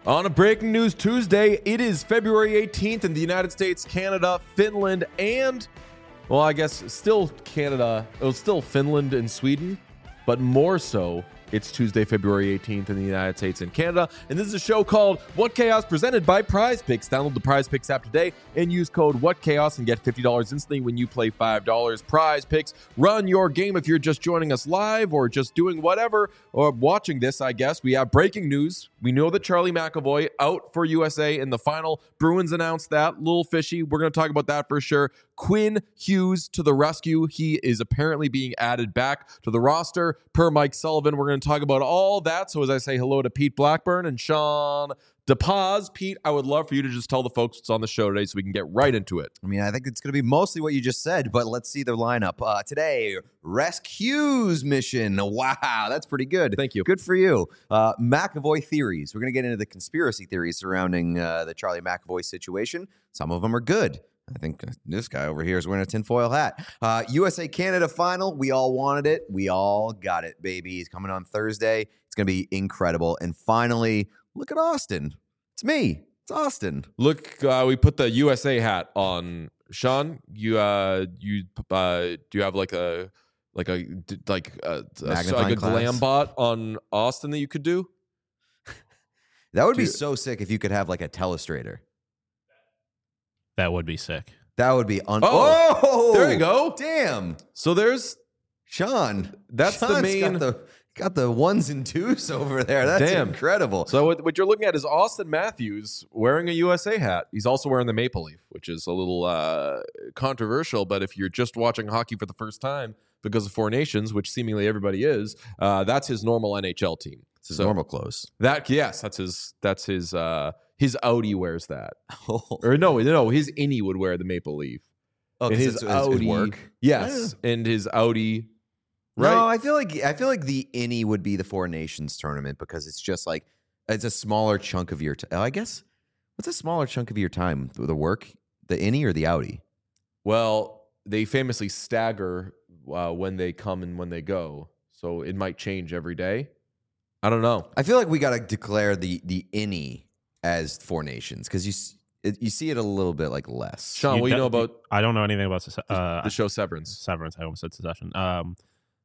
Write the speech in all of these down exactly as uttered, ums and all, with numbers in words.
On a breaking news Tuesday, it is February eighteenth in the United States, Canada, Finland, and, well, I guess still Canada. It was still Finland and Sweden, but more so, it's Tuesday, February eighteenth in the United States and Canada. And this is a show called What Chaos, presented by Prize Picks. Download the Prize Picks app today and use code What Chaos and get fifty dollars instantly when you play five dollars. Prize Picks, run your game. If you're just joining us live or just doing whatever or watching this, I guess, we have breaking news. We know that Charlie McAvoy out for U S A in the final. Bruins announced that. Little fishy. We're going to talk about that for sure. Quinn Hughes to the rescue. He is apparently being added back to the roster per Mike Sullivan. We're going to talk about all that. So as I say hello to Pete Blackburn and Sean DePaz. Pete, I would love for you to just tell the folks what's on the show today so we can get right into it. I mean, I think it's going to be mostly what you just said, but let's see the lineup. Uh, today, Rescues mission. Wow, that's pretty good. Thank you. Good for you. Uh, McAvoy theories. We're going to get into the conspiracy theories surrounding uh, the Charlie McAvoy situation. Some of them are good. I think this guy over here is wearing a tinfoil hat. Uh, U S A-Canada final. We all wanted it. We all got it, baby. It's coming on Thursday. It's going to be incredible. And finally, look at Austin. It's me. It's Austin. Look, uh, we put the U S A hat on. Sean, you uh, you uh, do you have like a like a like a, a like a glam bot on Austin that you could do? That would do be you, so sick if you could have like a telestrator. That would be sick. That would be un- oh, oh, there you go. Damn. So there's Sean. That's Sean's the main. Got the, got the ones and twos over there. That's Damn. incredible. So what, what you're looking at is Austin Matthews wearing a U S A hat. He's also wearing the Maple Leaf, which is a little uh, controversial. But if you're just watching hockey for the first time because of Four Nations, which seemingly everybody is, uh, that's his normal N H L team. It's his so normal clothes. That yes, that's his. That's his. Uh, his Audi wears that. Oh. Or no, no, his innie would wear the Maple Leaf. Oh, and his it's, Audi it's work. Yes, yeah. And his Audi. Right? No, I feel like I feel like the innie would be the Four Nations tournament because it's just like it's a smaller chunk of your. T- oh, I guess what's a smaller chunk of your time? The work, the innie, or the Audi? Well, they famously stagger uh, when they come and when they go, so it might change every day. I don't know. I feel like we got to declare the the innie as Four Nations because you you see it a little bit like less. Sean, You what do you de- know about I don't know anything about uh, the show Severance? Severance. I almost said Succession. Um,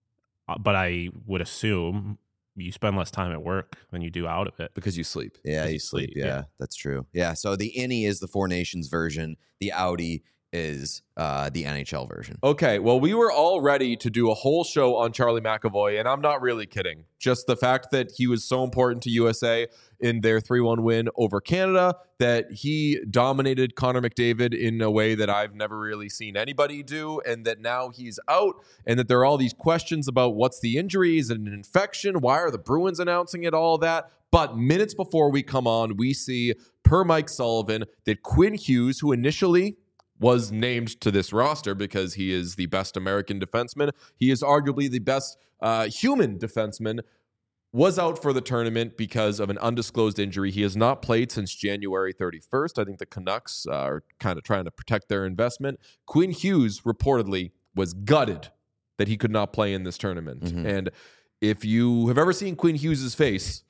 but I would assume you spend less time at work than you do out of it. Because you sleep. Yeah, Because you you sleep. sleep, Yeah, yeah. that's true. Yeah, so the innie is the Four Nations version. The Audi is uh, the N H L version. Okay, well, we were all ready to do a whole show on Charlie McAvoy, and I'm not really kidding. Just the fact that he was so important to U S A in their three one win over Canada, that he dominated Connor McDavid in a way that I've never really seen anybody do, and that now he's out, and that there are all these questions about what's the injury, is it an infection, why are the Bruins announcing it, all that. But minutes before we come on, we see, per Mike Sullivan, that Quinn Hughes, who initially was named to this roster because he is the best American defenseman, he is arguably the best uh, human defenseman, was out for the tournament because of an undisclosed injury. He has not played since January thirty-first. I think the Canucks uh, are kind of trying to protect their investment. Quinn Hughes reportedly was gutted that he could not play in this tournament. Mm-hmm. And if you have ever seen Quinn Hughes' face,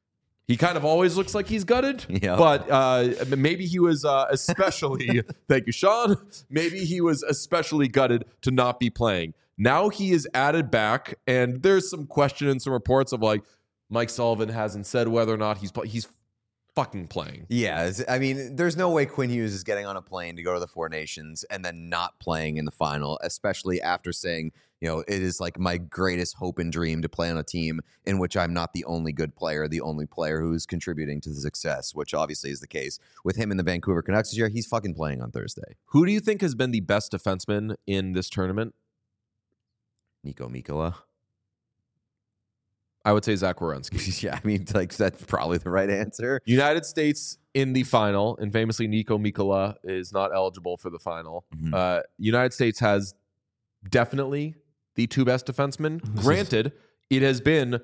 he kind of always looks like he's gutted, Yep. but uh, maybe he was uh, especially, thank you, Sean, maybe he was especially gutted to not be playing. Now he is added back, and there's some question and some reports of like, Mike Sullivan hasn't said whether or not he's play- he's fucking playing. Yeah, it's- I mean, there's no way Quinn Hughes is getting on a plane to go to the Four Nations and then not playing in the final, especially after saying, you know, it is like my greatest hope and dream to play on a team in which I'm not the only good player, the only player who's contributing to the success, which obviously is the case with him in the Vancouver Canucks this year. He's fucking playing on Thursday. Who do you think has been the best defenseman in this tournament? Nico Mikkola. I would say Zach Werenski. Yeah, I mean, like that's probably the right answer. United States in the final, and famously Nico Mikkola is not eligible for the final. Mhm. Uh, United States has definitely the two best defensemen. Granted, it has been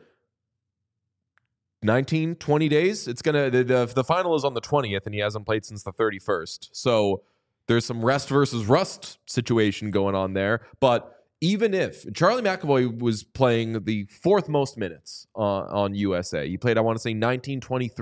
nineteen, twenty days. It's gonna the, the, the final is on the twentieth, and he hasn't played since the thirty-first. So there's some rest versus rust situation going on there. But even if Charlie McAvoy was playing the fourth most minutes on, on U S A, he played, I want to say, nineteen, twenty-three,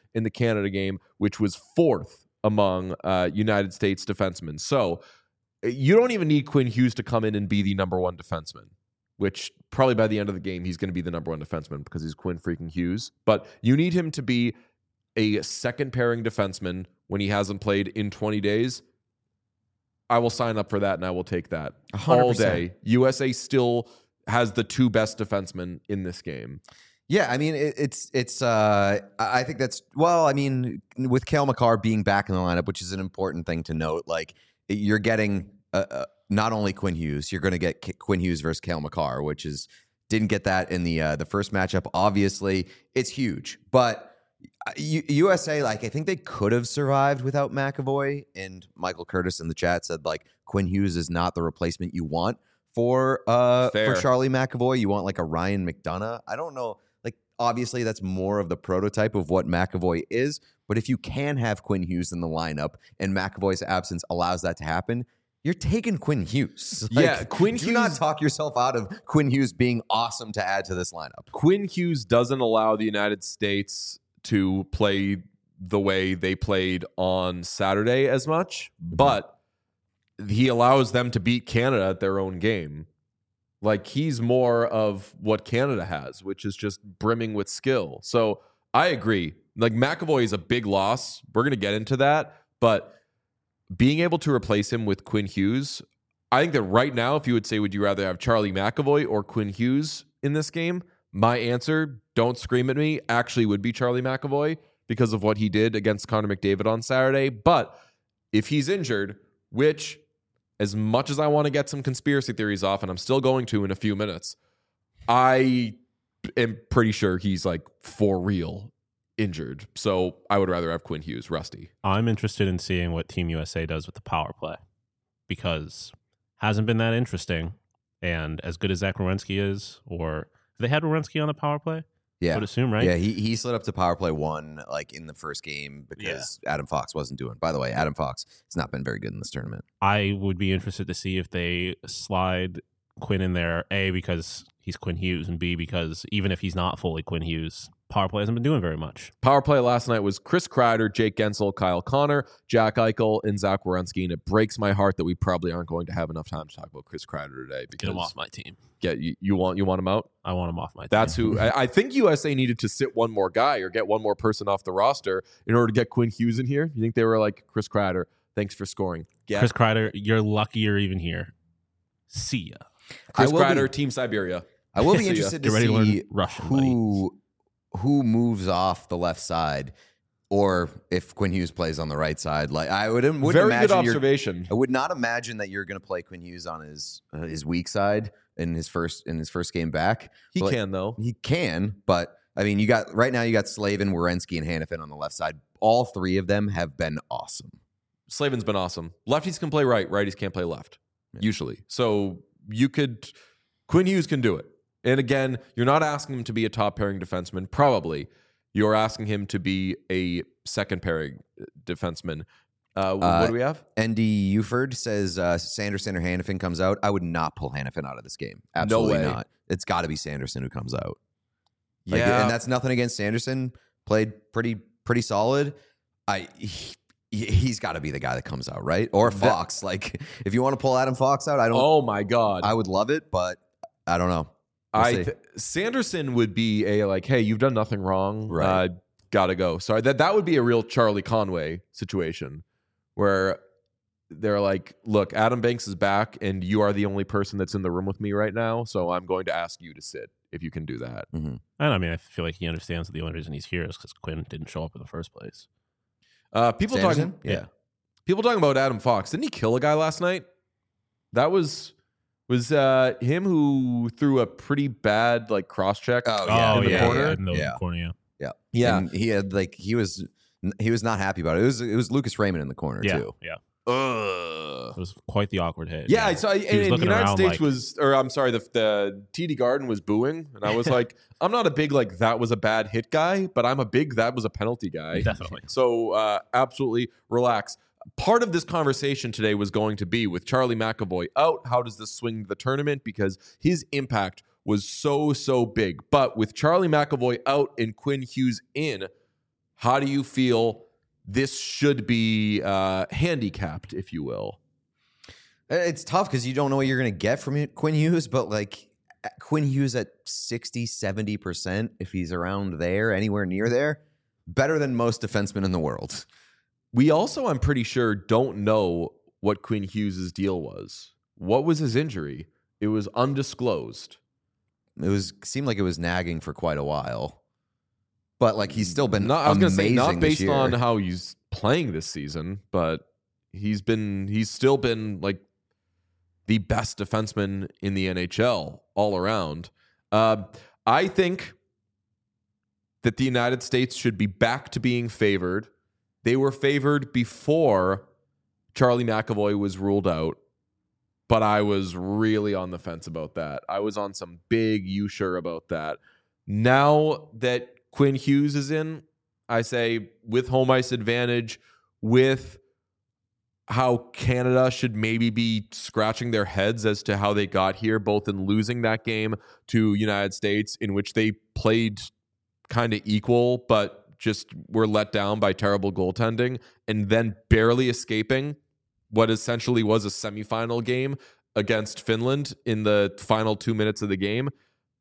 in the Canada game, which was fourth among uh, United States defensemen. So you don't even need Quinn Hughes to come in and be the number one defenseman, which probably by the end of the game, he's going to be the number one defenseman because he's Quinn freaking Hughes. But you need him to be a second pairing defenseman when he hasn't played in twenty days. I will sign up for that and I will take that one hundred percent. all day. U S A still has the two best defensemen in this game. Yeah, I mean, it, it's, it's, uh, I think that's, well, I mean, with Cale Makar being back in the lineup, which is an important thing to note, like, you're getting uh, uh, not only Quinn Hughes, you're going to get K- Quinn Hughes versus Cale Makar, which is, didn't get that in the uh, the first matchup. Obviously, it's huge, but U- USA, like, I think they could have survived without McAvoy. And Michael Curtis in the chat said, like, Quinn Hughes is not the replacement you want for uh Fair. for Charlie McAvoy. You want like a Ryan McDonough. I don't know. Like, obviously, that's more of the prototype of what McAvoy is. But if you can have Quinn Hughes in the lineup and McAvoy's absence allows that to happen, you're taking Quinn Hughes. Like, Yeah, Quinn do Hughes- not talk yourself out of Quinn Hughes being awesome to add to this lineup. Quinn Hughes doesn't allow the United States to play the way they played on Saturday as much, but he allows them to beat Canada at their own game. Like, he's more of what Canada has, which is just brimming with skill. So I agree. Like, McAvoy is a big loss. We're going to get into that, but being able to replace him with Quinn Hughes, I think that right now, if you would say, would you rather have Charlie McAvoy or Quinn Hughes in this game? My answer, don't scream at me, actually would be Charlie McAvoy because of what he did against Connor McDavid on Saturday. But if he's injured, which, as much as I want to get some conspiracy theories off, and I'm still going to in a few minutes, I am pretty sure he's like for real injured. So I would rather have Quinn Hughes, Rusty. I'm interested in seeing what Team U S A does with the power play because hasn't been that interesting. And as good as Zach Werenski is, or they had Werenski on the power play, Yeah. I would assume, right? Yeah, he he slid up to power play one like in the first game because Adam Fox wasn't doing. By the way, Adam Fox has not been very good in this tournament. I would be interested to see if they slide Quinn in there, A, because he's Quinn Hughes, and B, because even if he's not fully Quinn Hughes, power play hasn't been doing very much. Power play last night was Chris Kreider, Jake Gensel, Kyle Connor, Jack Eichel, and Zach Werenski, and it breaks my heart that we probably aren't going to have enough time to talk about Chris Kreider today. Because Get him off my team. Get you, you want you want him out? I want him off my That's team. who I, I think U S A needed to sit one more guy or get one more person off the roster in order to get Quinn Hughes in here. You think they were like, Chris Kreider, thanks for scoring. Get Chris Kreider, you're lucky you're even here. See ya. Chris I will Kreider, be- Team Siberia. I will be See ya. interested Get to ready to see learn Russian, who who moves off the left side, or if Quinn Hughes plays on the right side. Like I would wouldn't Very imagine good you're- observation. I would not imagine that you're going to play Quinn Hughes on his uh, his weak side in his first in his first game back. He But, like, can though. He can, but I mean, you got right now. You got Slavin, Werenski, and Hannafin on the left side. All three of them have been awesome. Slavin's been awesome. Lefties can play right, righties can't play left, Yeah. usually. So you could, Quinn Hughes can do it. And again, you're not asking him to be a top pairing defenseman, probably. You're asking him to be a second pairing defenseman. Uh, Uh, what do we have? Andy Uford says uh, Sanderson or Hannafin comes out. I would not pull Hannafin out of this game. Absolutely way. not. It's got to be Sanderson who comes out. Like, Yeah. and that's nothing against Sanderson. Played pretty pretty solid. I he, he's got to be the guy that comes out, right? Or That- Fox. Like if you want to pull Adam Fox out, I don't. Oh my God. I would love it, but I don't know. We'll I see. th- Sanderson would be a like, hey, you've done nothing wrong. Right. Uh, gotta go. Sorry. That that would be a real Charlie Conway situation where they're like, look, Adam Banks is back and you are the only person that's in the room with me right now. So I'm going to ask you to sit if you can do that. And I mean, I feel like he understands that the only reason he's here is because Quinn didn't show up in the first place. Uh, people Sanderson? talking, yeah. People talking about Adam Fox. Didn't he kill a guy last night? That was was uh, him who threw a pretty bad like cross check. Oh, yeah. in the yeah, corner? yeah, in the Yeah. corner, yeah. Yeah, Yeah. And he had like he was he was not happy about it. It was it was Lucas Raymond in the corner Yeah, too. yeah. Ugh. It was quite the awkward hit. Yeah, I saw. And, He was and looking United around States like- was, or I'm sorry, the the T D Garden was booing, and I was like, I'm not a big like that was a bad hit guy, but I'm a big that was a penalty guy. Definitely. So uh, absolutely relax. Part of this conversation today was going to be with Charlie McAvoy out. How does this swing the tournament? Because his impact was so so big. But with Charlie McAvoy out and Quinn Hughes in, how do you feel this should be uh, handicapped, if you will? It's tough because you don't know what you're going to get from Quinn Hughes, but like Quinn Hughes at sixty, seventy percent, if he's around there, anywhere near there, better than most defensemen in the world. We also, I'm pretty sure, don't know what Quinn Hughes' deal was. What was his injury? It was undisclosed. It was seemed like it was nagging for quite a while, but like he's still been. Not, I was going to say not amazing this based year. on how he's playing this season, but he's been he's still been like the best defenseman in the N H L all around. Uh, I think that the United States should be back to being favored. They were favored before Charlie McAvoy was ruled out, but I was really on the fence about that. I was on some big you sure about that. Now that Quinn Hughes is in, I say with home ice advantage, with how Canada should maybe be scratching their heads as to how they got here, both in losing that game to United States, in which they played kind of equal, but just were let down by terrible goaltending, and then barely escaping what essentially was a semifinal game against Finland in the final two minutes of the game.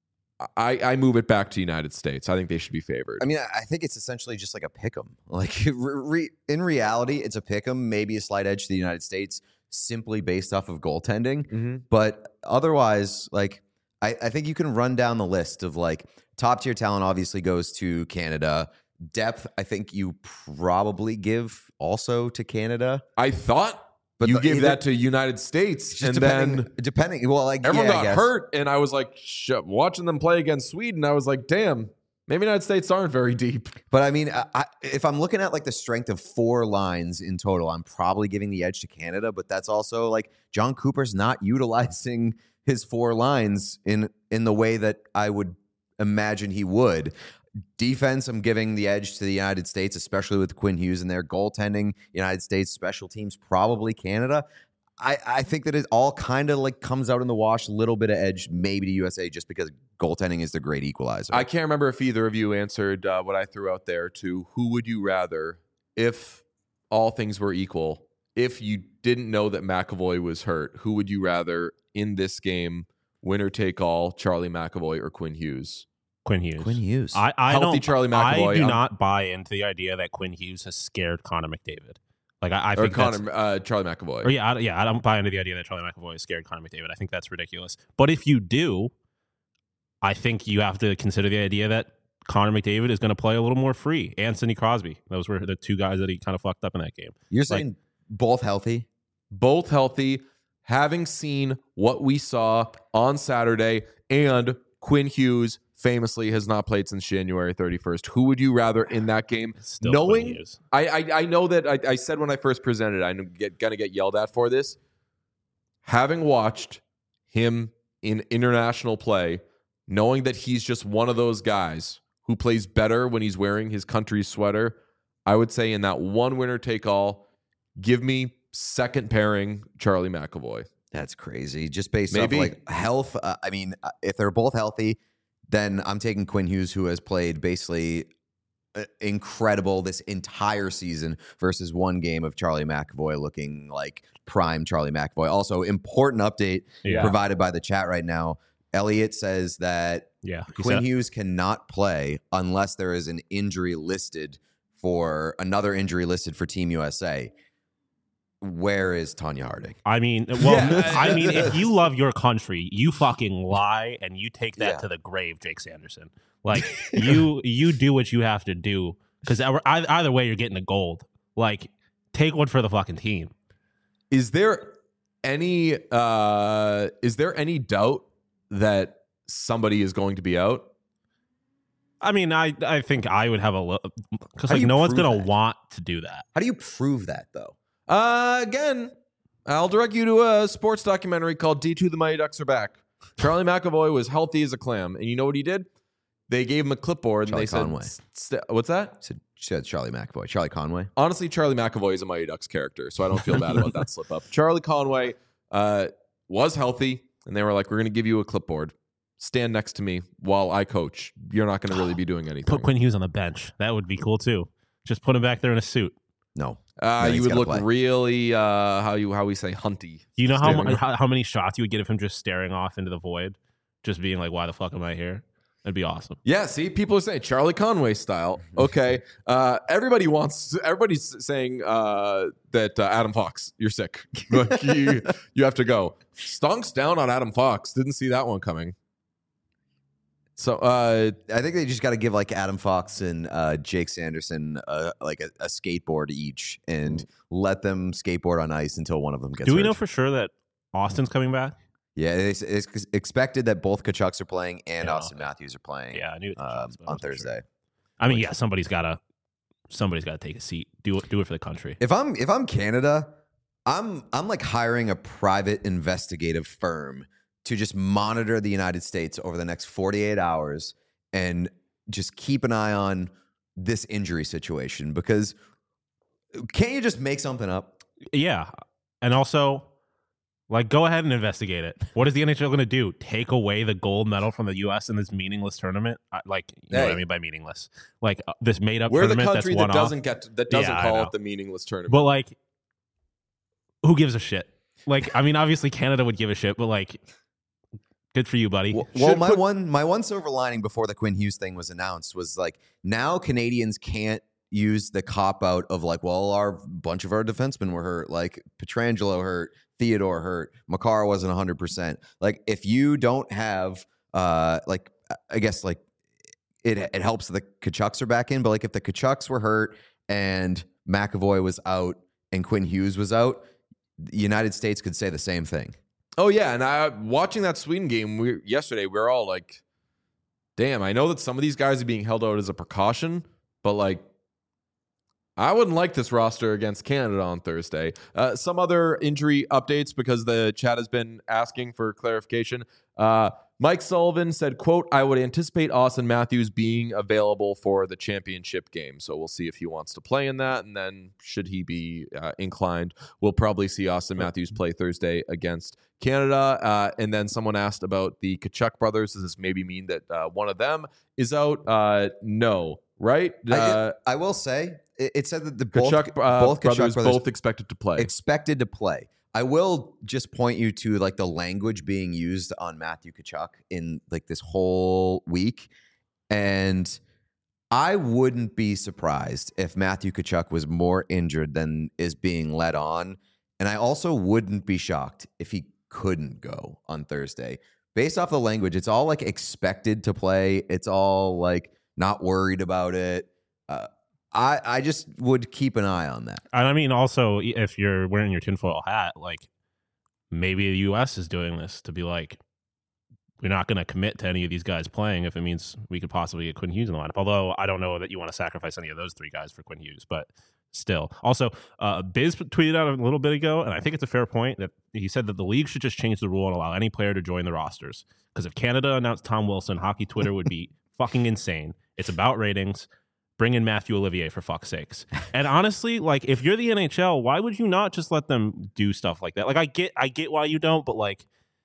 I, I move it back to United States. I think they should be favored. I mean, I think it's essentially just like a pick'em. Like re- in reality, it's a pick'em, maybe a slight edge to the United States, simply based off of goaltending. Mm-hmm. But otherwise, like I, I think you can run down the list of like top tier talent. Obviously, goes to Canada. Depth, I think you probably give also to Canada. I thought. But you the, give either, that to United States, just and depending, then depending. Well, like everyone yeah, got hurt, and I was like, sh- watching them play against Sweden, I was like, damn, maybe United States aren't very deep. But I mean, I, I, if I'm looking at like the strength of four lines in total, I'm probably giving the edge to Canada. But that's also like John Cooper's not utilizing his four lines in in the way that I would imagine he would. Defense, I'm giving the edge to the United States, especially with Quinn Hughes in there. Goaltending, United States. Special teams, probably Canada. I, I think that it all kind of like comes out in the wash, a little bit of edge, maybe to U S A, just because goaltending is the great equalizer. I can't remember if either of you answered uh, what I threw out there to who would you rather, if all things were equal, if you didn't know that McAvoy was hurt, who would you rather in this game, winner take all, Charlie McAvoy or Quinn Hughes? Quinn Hughes. Quinn Hughes. I, I Healthy don't. Charlie McAvoy. I do I'm- not buy into the idea that Quinn Hughes has scared Connor McDavid. Like I, I Or think that's, Connor, uh, Charlie McAvoy. or yeah, I, yeah. I don't buy into the idea that Charlie McAvoy has scared Connor McDavid. I think that's ridiculous. But if you do, I think you have to consider the idea that Connor McDavid is going to play a little more free. Anthony Crosby. Those were the two guys that he kind of fucked up in that game. You're saying both healthy? Both healthy, having seen what we saw on Saturday, and Quinn Hughes famously has not played since January thirty-first. Who would you rather in that game? Still Knowing, Quinn Hughes. I, I I know that I, I said when I first presented, I'm get, gonna get yelled at for this. Having watched him in international play, knowing that he's just one of those guys who plays better when he's wearing his country's sweater, I would say in that one winner take all, give me second pairing Charlie McAvoy. That's crazy. Just based Maybe. off like health. Uh, I mean, uh, if they're both healthy, then I'm taking Quinn Hughes, who has played basically uh, incredible this entire season, versus one game of Charlie McAvoy looking like prime Charlie McAvoy. Also, important update Yeah. provided by the chat right now. Elliot says that Yeah. he Quinn said- Hughes cannot play unless there is an injury listed for another injury listed for Team U S A. Where is Tanya Harding? I mean, well, Yeah. I mean, if you love your country, you fucking lie and you take that Yeah. to the grave, Jake Sanderson. Like you, you do what you have to do because either way, you're getting the gold. Like, take one for the fucking team. Is there any uh is there any doubt that somebody is going to be out? I mean, I, I think I would have a little because How do like you no one's prove gonna that? want to do that. How do you prove that, though? Uh, again, I'll direct you to a sports documentary called D two The Mighty Ducks Are Back. Charlie McAvoy was healthy as a clam. And you know what he did? They gave him a clipboard Charlie and they Conway. said, st- what's that? Said, said Charlie McAvoy. Charlie Conway. Honestly, Charlie McAvoy is a Mighty Ducks character, so I don't feel bad about that slip up. Charlie Conway uh, was healthy, and they were like, we're going to give you a clipboard. Stand next to me while I coach. You're not going to really be doing anything. Put Quinn Hughes on the bench. That would be cool too. Just put him back there in a suit. No. Uh, No, you he's would gotta look play. really, uh, how you how we say, hunty. Do you know how, Staring mu- off. how how many shots you would get of him just staring off into the void, just being like, "Why the fuck am I here?" That'd be awesome. Yeah, see, people are saying Charlie Conway style. Okay, uh, everybody wants. Everybody's saying uh, that uh, Adam Fox, you're sick. Like, you, you have to go. Stonks down on Adam Fox. Didn't see that one coming. So uh, I think they just got to give like Adam Fox and uh, Jake Sanderson uh, like a, a skateboard each and let them skateboard on ice until one of them gets Do we hurt. know for sure that Austin's coming back? Yeah, it's, it's expected that both Kachucks are playing and Yeah. Austin Matthews are playing. Yeah, I knew it um, but I on wasn't sure. Thursday. I mean, yeah, somebody's gotta somebody's gotta take a seat. Do it. Do it for the country. If I'm if I'm Canada, I'm I'm like hiring a private investigative firm to just monitor the United States over the next forty-eight hours and just keep an eye on this injury situation, because can't you just make something up? Yeah, and also, like, go ahead and investigate it. What is the N H L going to do? Take away the gold medal from the U S in this meaningless tournament? I, like, you know what I Hey. mean by meaningless? Like uh, this made up we're the tournament country that's that one off. doesn't get that doesn't Yeah, I call know. it the meaningless tournament. But like, who gives a shit? Like, I mean, obviously Canada would give a shit, but like, good for you, buddy. Well, well, Should my put- one my one silver lining before the Quinn Hughes thing was announced was like, now Canadians can't use the cop out of like, well, our bunch of our defensemen were hurt, like Pietrangelo hurt, Theodore hurt, Makar wasn't one hundred percent. Like, if you don't have uh like I guess like it it helps that the Kachucks are back in, but like if the Kachucks were hurt and McAvoy was out and Quinn Hughes was out, the United States could say the same thing. Oh yeah, and I watching that Sweden game we, yesterday, we were all like, "Damn!" I know that some of these guys are being held out as a precaution, but like, I wouldn't like this roster against Canada on Thursday. Uh, some other injury updates, because the chat has been asking for clarification. Uh, Mike Sullivan said, quote, I would anticipate Austin Matthews being available for the championship game. So we'll see if he wants to play in that. And then should he be uh, inclined, we'll probably see Austin Matthews play Thursday against Canada. Uh, and then someone asked about the Kachuk brothers. Does this maybe mean that uh, one of them is out? Uh, no, right? I, Uh, I will say it, it said that the both, Kachuk, uh, both Kachuk brothers, brothers both expected to play. expected to play. I will just point you to like the language being used on Matthew Kachuk in like this whole week. And I wouldn't be surprised if Matthew Kachuk was more injured than is being led on. And I also wouldn't be shocked if he couldn't go on Thursday. Based off the language, it's all like expected to play. It's all like not worried about it. Uh, I, I just would keep an eye on that. And I mean, also, if you're wearing your tinfoil hat, like maybe the U S is doing this to be like, we're not going to commit to any of these guys playing if it means we could possibly get Quinn Hughes in the lineup. Although I don't know that you want to sacrifice any of those three guys for Quinn Hughes, but still. Also, uh, Biz tweeted out a little bit ago, and I think it's a fair point, that he said that the league should just change the rule and allow any player to join the rosters. Because if Canada announced Tom Wilson, hockey Twitter would be fucking insane. It's about ratings. Bring in Matthew Olivier, for fuck's sakes. And honestly, like, if you're the N H L, why would you not just let them do stuff like that? Like, I get, I get why you don't, but like,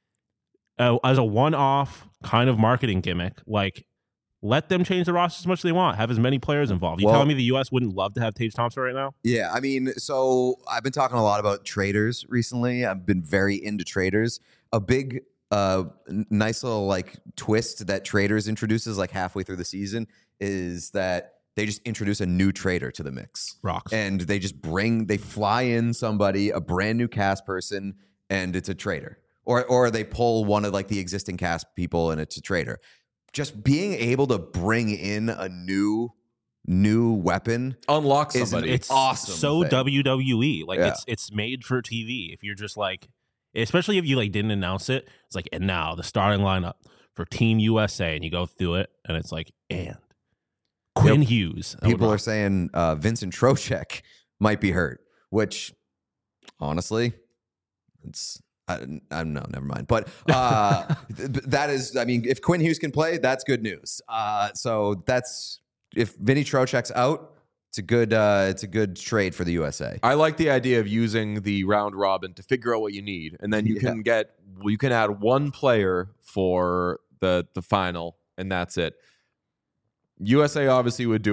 uh, as a one-off kind of marketing gimmick, like, let them change the roster as much as they want. Have as many players involved. You Well- telling me the U S wouldn't love to have Tage Thompson right now? Yeah, I mean, so I've been talking a lot about traders recently. I've been very into traders. A big, uh, n- nice little like twist that traders introduces like halfway through the season is that they just introduce a new trader to the mix. Rocks. And they just bring, they fly in somebody, a brand new cast person, and it's a trader. Or or they pull one of like the existing cast people and it's a trader. Just being able to bring in a new new weapon Unlock is somebody. It's awesome so thing. W W E. Like Yeah. it's it's made for T V. If you're just like, especially if you like didn't announce it, it's like, and now the starting lineup for Team U S A, and you go through it, and it's like, and Quinn Yep. Hughes. That would People are rock. saying uh, Vincent Trocheck might be hurt, which honestly, it's I, I don't know, never mind. But uh, th- that is, I mean, if Quinn Hughes can play, that's good news. Uh, so that's if Vinny Trocheck's out, it's a good uh, it's a good trade for the U S A. I like the idea of using the round robin to figure out what you need, and then you Yeah. can get you can add one player for the the final, and that's it. U S A obviously would do it.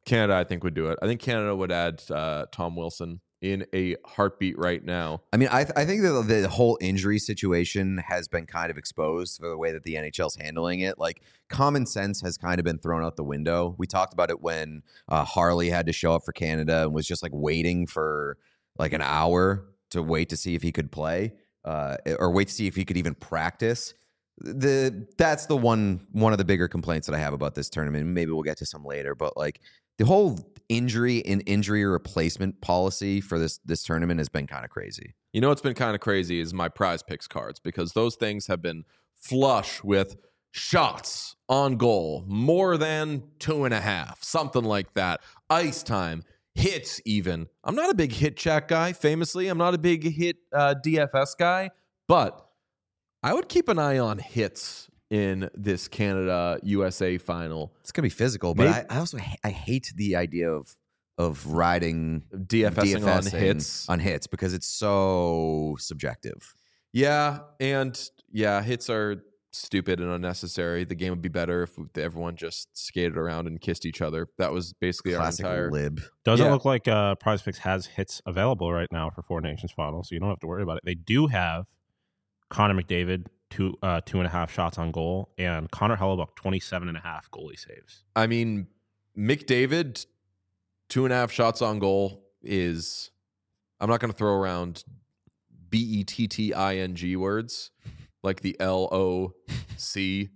Canada, I think, would do it. I think Canada would add uh, Tom Wilson in a heartbeat right now. I mean, I, th- I think that the whole injury situation has been kind of exposed for the way that the N H L's handling it. Like, common sense has kind of been thrown out the window. We talked about it when uh, Harley had to show up for Canada and was just like waiting for like an hour to wait to see if he could play uh, or wait to see if he could even practice. The that's the one one of the bigger complaints that I have about this tournament. Maybe we'll get to some later, but like the whole injury and injury replacement policy for this this tournament has been kind of crazy. You know what's been kind of crazy is my Prize Picks cards, because those things have been flush with shots on goal, more than two and a half, something like that. Ice time, hits even. I'm not a big hit check guy, famously. I'm not a big hit uh, D F S guy, but I would keep an eye on hits in this Canada U S A final. It's gonna be physical, but Maybe, I, I also I hate the idea of of riding DFSing, DFSing on hits on hits because it's so subjective. Yeah, and yeah, hits are stupid and unnecessary. The game would be better if everyone just skated around and kissed each other. That was basically Classic our entire lib. Doesn't Yeah. look like uh, Prize Picks has hits available right now for Four Nations final, so you don't have to worry about it. They do have Connor McDavid, two uh, two and a half shots on goal, and Connor Hellebuck, twenty-seven and a half goalie saves. I mean, McDavid, two and a half shots on goal is, I'm not going to throw around B E T T I N G words like the L O C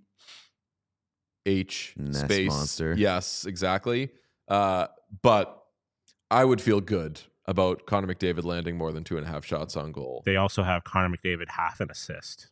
H Nest space. monster. Yes, exactly. Uh, but I would feel good about Connor McDavid landing more than two and a half shots on goal. They also have Connor McDavid half an assist.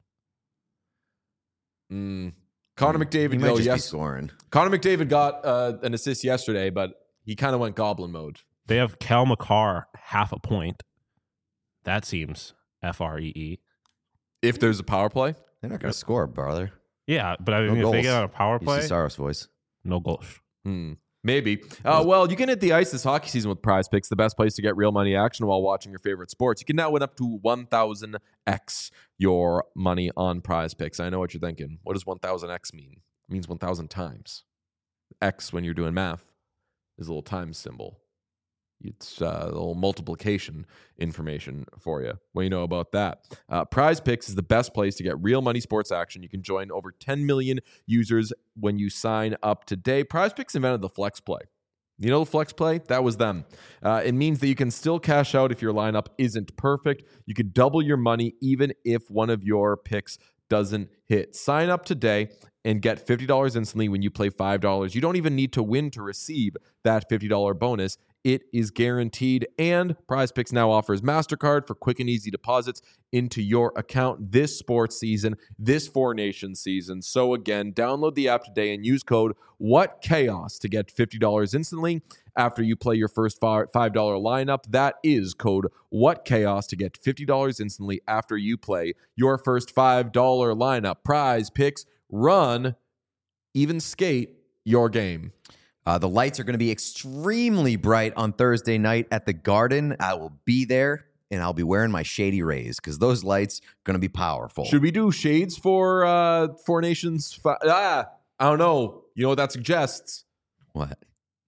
Mm. Connor He McDavid, might though, just be yes. scoring. Connor McDavid got uh, an assist yesterday, but he kind of went goblin mode. They have Cal McCarr half a point. That seems F R E E. If there's a power play, They're not going to score, brother. Yeah, but I No mean, if they goals. get on a power You play, see Saros' voice. no goals. hmm, maybe. Uh, well, you can hit the ice this hockey season with Prize Picks, the best place to get real money action while watching your favorite sports. You can now win up to one thousand x your money on Prize Picks. I know what you're thinking. What does one thousand x mean? It means one thousand times. X, when you're doing math, is a little times symbol. It's uh, a little multiplication information for you. What you know about that? Uh, Prize Picks is the best place to get real money sports action. You can join over ten million users when you sign up today. Prize Picks invented the flex play. You know the flex play? That was them. Uh, it means that you can still cash out if your lineup isn't perfect. You could double your money even if one of your picks doesn't hit. Sign up today and get fifty dollars instantly when you play five dollars. You don't even need to win to receive that fifty dollars bonus. It is guaranteed. And Prize Picks now offers MasterCard for quick and easy deposits into your account this sports season, this Four Nations season. So again, download the app today and use code WhatChaos to get fifty dollars instantly after you play your first five dollars lineup. That is code WhatChaos to get fifty dollars instantly after you play your first five dollars lineup. Prize Picks, run, even skate your game. Uh, the lights are going to be extremely bright on Thursday night at the Garden. I will be there, and I'll be wearing my Shady Rays because those lights are going to be powerful. Should we do shades for uh, Four Nations? Fi- ah, I don't know. You know what that suggests? What?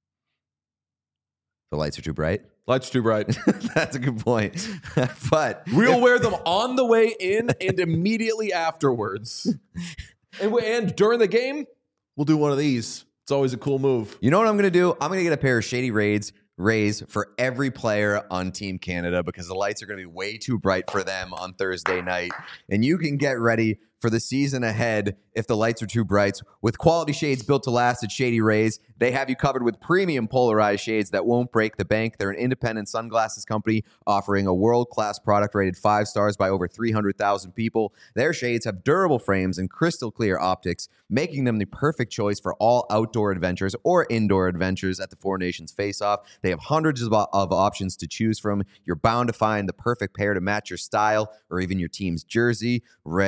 The lights are too bright? Lights too bright. That's a good point. But We'll wear them on the way in and immediately afterwards. And, we- and during the game, we'll do one of these. It's always a cool move. you know what I'm going to do? I'm going to get a pair of Shady Rays Rays for every player on Team Canada because the lights are going to be way too bright for them on Thursday night. And you can get ready for the season ahead if the lights are too bright. With quality shades built to last at Shady Rays, they have you covered with premium polarized shades that won't break the bank. They're an independent sunglasses company offering a world-class product rated five stars by over three hundred thousand people. Their shades have durable frames and crystal clear optics, making them the perfect choice for all outdoor adventures or indoor adventures at the Four Nations Face-Off. They have hundreds of, of options to choose from. You're bound to find the perfect pair to match your style or even your team's jersey. Red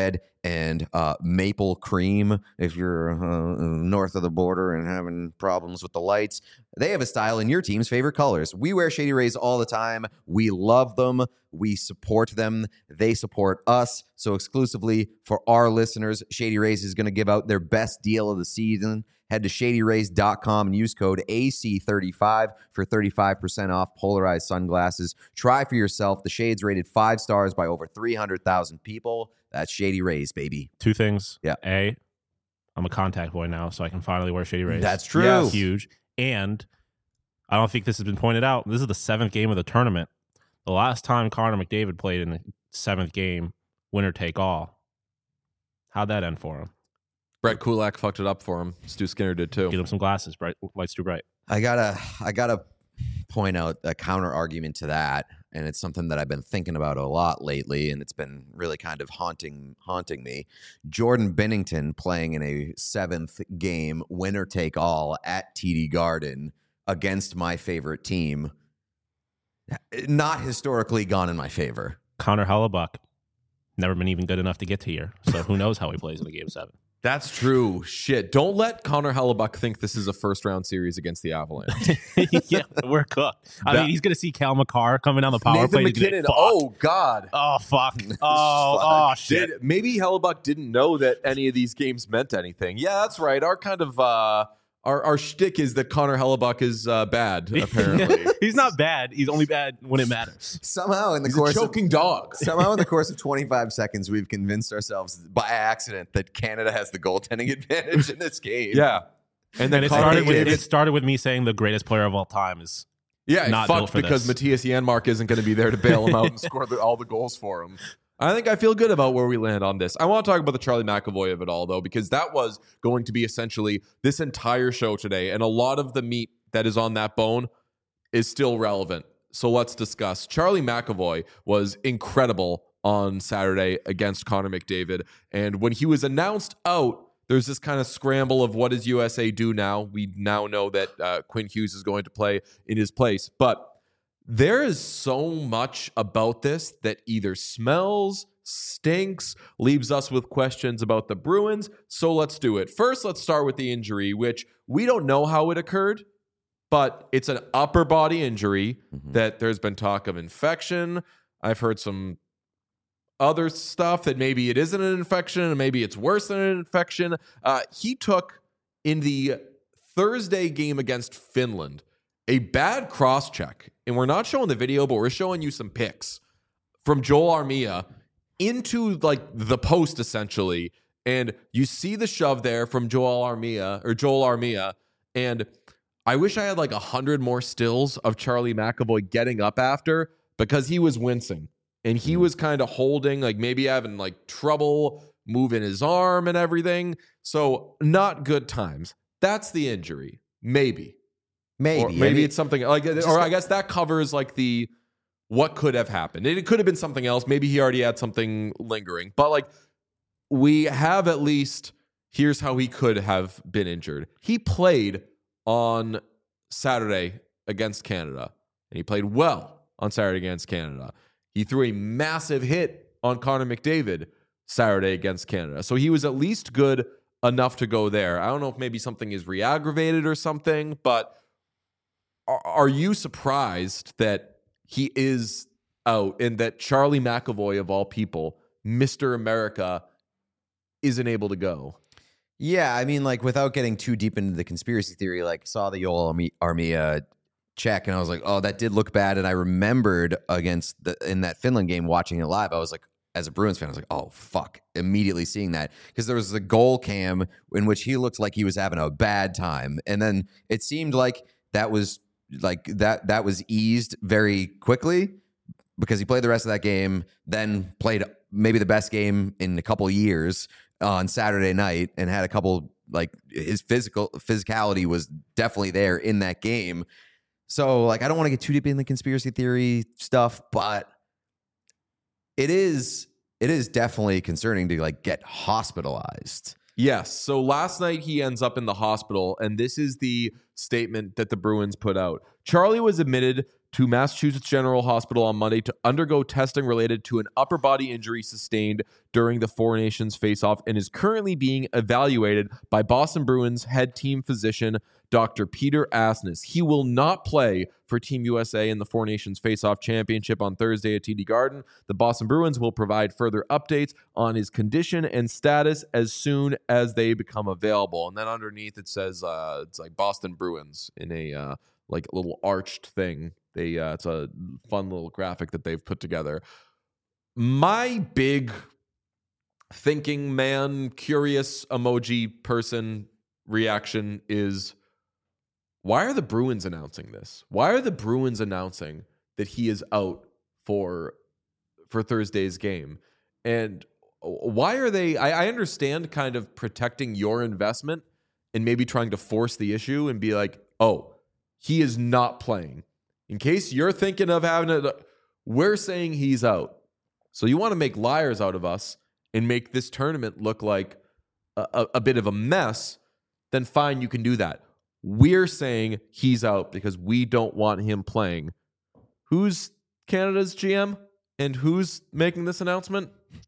and uh, maple cream if you're uh, north of the border and having problems with the lights. They have a style in your team's favorite colors. We wear Shady Rays all the time. We love them. We support them. They support us. So exclusively for our listeners, Shady Rays is going to give out their best deal of the season. Head to shady rays dot com and use code A C thirty-five for thirty-five percent off polarized sunglasses. Try for yourself. The shades rated five stars by over three hundred thousand people. That's Shady Rays, baby. Two things. Yeah. A, I'm a contact boy now, so I can finally wear Shady Rays. That's true. Yes. Huge. And I don't think this has been pointed out. This is the seventh game of the tournament. The last time Connor McDavid played in the seventh game, winner take all. How'd that end for him? Brett Kulak fucked it up for him. Stu Skinner did too. Get him some glasses. Bright lights too bright. I gotta, I gotta point out a counter argument to that, and it's something that I've been thinking about a lot lately, and it's been really kind of haunting, haunting me. Jordan Binnington playing in a seventh game, winner take all at T D Garden against my favorite team. Not historically gone in my favor. Connor Hellebuck, never been even good enough to get to here. So who knows how he plays in a game seven. That's true. Shit. Don't let Connor Hellebuck think this is a first round series against the Avalanche. Yeah, we're cooked. I That- mean, he's going to see Cal McCarr coming down the power Nathan play. He's gonna be McKinnon. like, fuck. Oh, God. Oh, fuck. Oh, oh, shit. Did, maybe Hellebuck didn't know that any of these games meant anything. Yeah, that's right. Our kind of uh, our our shtick is that Connor Hellebuck is uh, bad. Apparently, He's not bad. He's only bad when it matters. Somehow in the he's a course of choking dog. Somehow in the course of twenty-five seconds, we've convinced ourselves by accident that Canada has the goaltending advantage in this game. Yeah, and then And it Connor started, with, McDavid- it started with me saying the greatest player of all time is Yeah, not fucked built for because this. Matthias Janmark isn't going to be there to bail him out and score the, all the goals for him. I think I feel good about where we land on this. I want to talk about the Charlie McAvoy of it all, though, because that was going to be essentially this entire show today, and a lot of the meat that is on that bone is still relevant. So let's discuss. Charlie McAvoy was incredible on Saturday against Connor McDavid, and when he was announced out, there's this kind of scramble of what does U S A do now? We now know that uh, Quinn Hughes is going to play in his place, but there is so much about this that either smells, stinks, leaves us with questions about the Bruins. So let's do it. First, let's start with the injury, which we don't know how it occurred, but it's an upper body injury Mm-hmm. that there's been talk of infection. I've heard some other stuff that maybe it isn't an infection and maybe it's worse than an infection. Uh, he took in the Thursday game against Finland a bad cross check, and we're not showing the video, but we're showing you some pics from Joel Armia into like the post essentially, and you see the shove there from Joel Armia or Joel Armia, and I wish I had like a hundred more stills of Charlie McAvoy getting up after because he was wincing and he was kind of holding, like maybe having like trouble moving his arm and everything. So not good times. That's the injury, maybe. Maybe. Or maybe I mean, it's something like, or I guess that covers like the what could have happened. It could have been something else. Maybe he already had something lingering, but like we have at least here's how he could have been injured. He played on Saturday against Canada, and he played well on Saturday against Canada. He threw a massive hit on Connor McDavid Saturday against Canada, so he was at least good enough to go there. I don't know if maybe something is re-aggravated or something, but are you surprised that he is out and that Charlie McAvoy, of all people, Mister America, isn't able to go? Yeah, I mean, like, without getting too deep into the conspiracy theory, like, saw the Joel Armi- Armia check, and I was like, oh, that did look bad. And I remembered against the in that Finland game, watching it live, I was like, as a Bruins fan, I was like, oh, fuck, immediately seeing that. Because there was a goal cam in which he looked like he was having a bad time. And then it seemed like that was like that that was eased very quickly because he played the rest of that game, then played maybe the best game in a couple years on Saturday night and had a couple, like, his physical physicality was definitely there in that game. So, like, I don't want to get too deep in the conspiracy theory stuff, but it is it is definitely concerning to, like, get hospitalized. Yes. So last night he ends up in the hospital, and this is the statement that the Bruins put out. Charlie was admitted to Massachusetts General Hospital on Monday to undergo testing related to an upper body injury sustained during the Four Nations face-off and is currently being evaluated by Boston Bruins head team physician Doctor Peter Asness. He will not play for Team U S A in the Four Nations face-off championship on Thursday at T D Garden. The Boston Bruins will provide further updates on his condition and status as soon as they become available. And then underneath it says uh, it's like Boston Bruins in a uh, like little arched thing. They uh, it's a fun little graphic that they've put together. My big thinking man, curious emoji person reaction is, why are the Bruins announcing this? Why are the Bruins announcing that he is out for for Thursday's game? And why are they, I, I understand kind of protecting your investment and maybe trying to force the issue and be like, oh, he is not playing. In case you're thinking of having it, we're saying he's out. So you want to make liars out of us and make this tournament look like a, a, a bit of a mess, then fine, you can do that. We're saying he's out because we don't want him playing. Who's Canada's G M and who's making this announcement?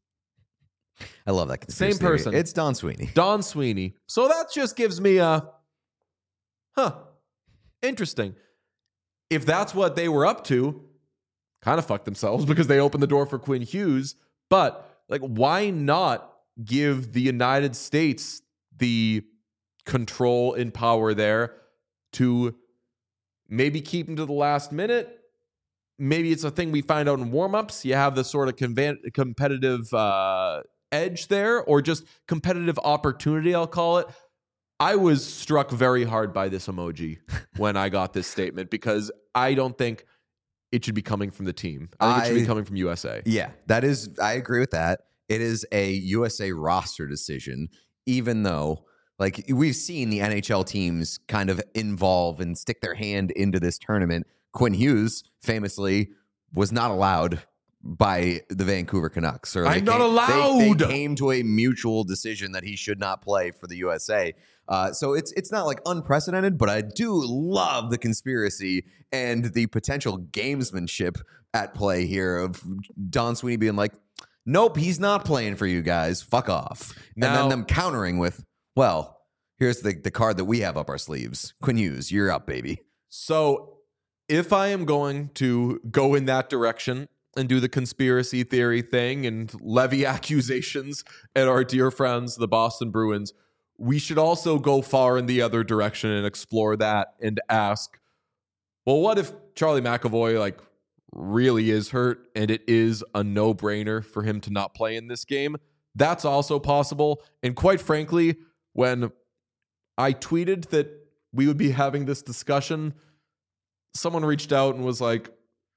I love that conspiracy Same theory. person. It's Don Sweeney. Don Sweeney. So that just gives me a, huh, interesting. If that's what they were up to, kind of fucked themselves because they opened the door for Quinn Hughes. But like, why not give the United States the control and power there to maybe keep him to the last minute? Maybe it's a thing we find out in warmups. You have the sort of convan- competitive uh, edge there, or just competitive opportunity, I'll call it. I was struck very hard by this emoji when I got this statement because I don't think it should be coming from the team. I think I, it should be coming from U S A. Yeah, that is, I agree with that. It is a U S A roster decision, even though, like, we've seen the N H L teams kind of involve and stick their hand into this tournament. Quinn Hughes famously was not allowed by the Vancouver Canucks. Or I'm they not came, allowed. They, they came to a mutual decision that he should not play for the U S A. Uh, so it's it's not like unprecedented, but I do love the conspiracy and the potential gamesmanship at play here of Don Sweeney being like, nope, he's not playing for you guys. Fuck off. Now, and then them countering with, well, here's the, the card that we have up our sleeves. Quinn Hughes, you're up, baby. So if I am going to go in that direction and do the conspiracy theory thing and levy accusations at our dear friends, the Boston Bruins, we should also go far in the other direction and explore that and ask, well, what if Charlie McAvoy like really is hurt and it is a no-brainer for him to not play in this game? That's also possible. And quite frankly, when I tweeted that we would be having this discussion, someone reached out and was like,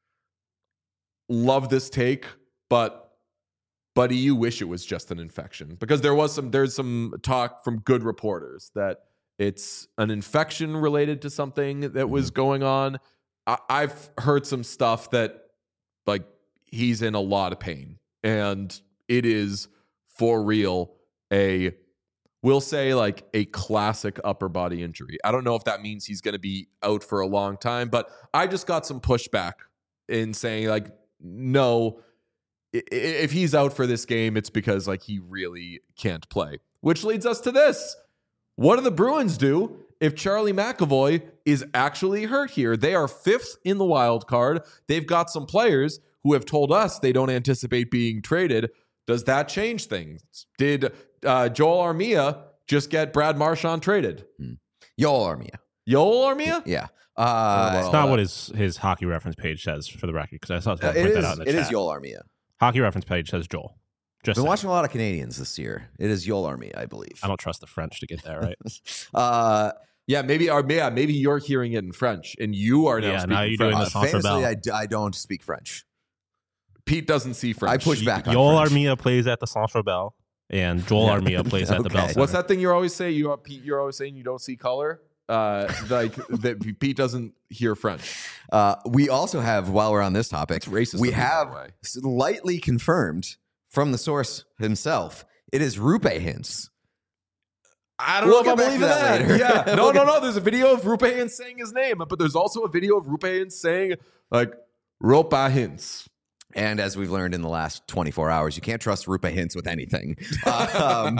love this take, but buddy, you wish it was just an infection. Because there was some, there's some talk from good reporters that it's an infection related to something that was going on. I, I've heard some stuff that like he's in a lot of pain and it is for real a, we'll say like a classic upper body injury. I don't know if that means he's going to be out for a long time, but I just got some pushback in saying like, no, if he's out for this game, it's because like he really can't play. Which leads us to this. What do the Bruins do if Charlie McAvoy is actually hurt here? They are fifth in the wild card. They've got some players who have told us they don't anticipate being traded. Does that change things? Did uh, Joel Armia just get Brad Marchand traded? Hmm. Joel Armia. Joel Armia? Yeah. Uh, It's not what his, his hockey reference page says, for the record, because I saw someone it point is, that out in the it chat. is Joel Armia. Hockey reference page says Joel. Just Been saying. watching a lot of Canadians this year. It is Joel Armia, I believe. I don't trust the French to get that right. uh, Yeah, maybe or yeah, maybe you're hearing it in French and you are now Yeah, speaking now you're French. doing uh, the Centre famously, Bell. I, d- I don't speak French. Pete doesn't see French. I push back on Joel French. Armia plays at the Centre Bell, and Joel Yeah. Armia plays at the Okay. Bell Center. What's that thing you always say? You are Pete. You're always saying you don't see color. Uh, like that. Pete doesn't hear French. Uh, we also have, while we're on this topic, It's racist. we of me, by have the way. slightly confirmed from the source himself. It is Rupe Hintz. I don't We'll know if get I back believe to in that that. later. Yeah. No, We'll no, get- no. There's a video of Rupe Hintz saying his name, but there's also a video of Rupe Hintz saying, like, Rupe Hintz. And as we've learned in the last twenty-four hours, you can't trust Rupa Hintz with anything. Um,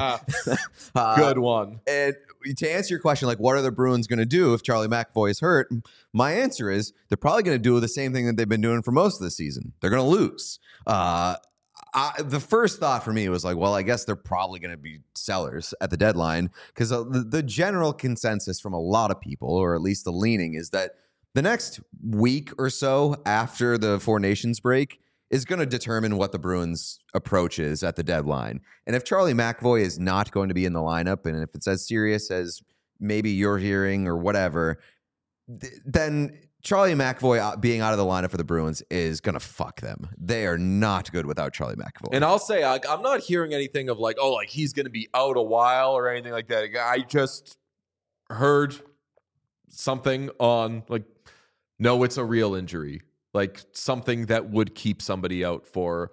uh, Good one. And to answer your question, like, what are the Bruins going to do if Charlie McAvoy is hurt? My answer is they're probably going to do the same thing that they've been doing for most of the season. They're going to lose. Uh, I, the first thought for me was like, well, I guess they're probably going to be sellers at the deadline because uh, the, the general consensus from a lot of people, or at least the leaning, is that the next week or so after the Four Nations break is going to determine what the Bruins' approach is at the deadline. And if Charlie McAvoy is not going to be in the lineup, and if it's as serious as maybe you're hearing or whatever, th- then Charlie McAvoy being out of the lineup for the Bruins is going to fuck them. They are not good without Charlie McAvoy. And I'll say, I, I'm not hearing anything of like, oh, like he's going to be out a while or anything like that. I just heard something on like, no, it's a real injury. Like something that would keep somebody out for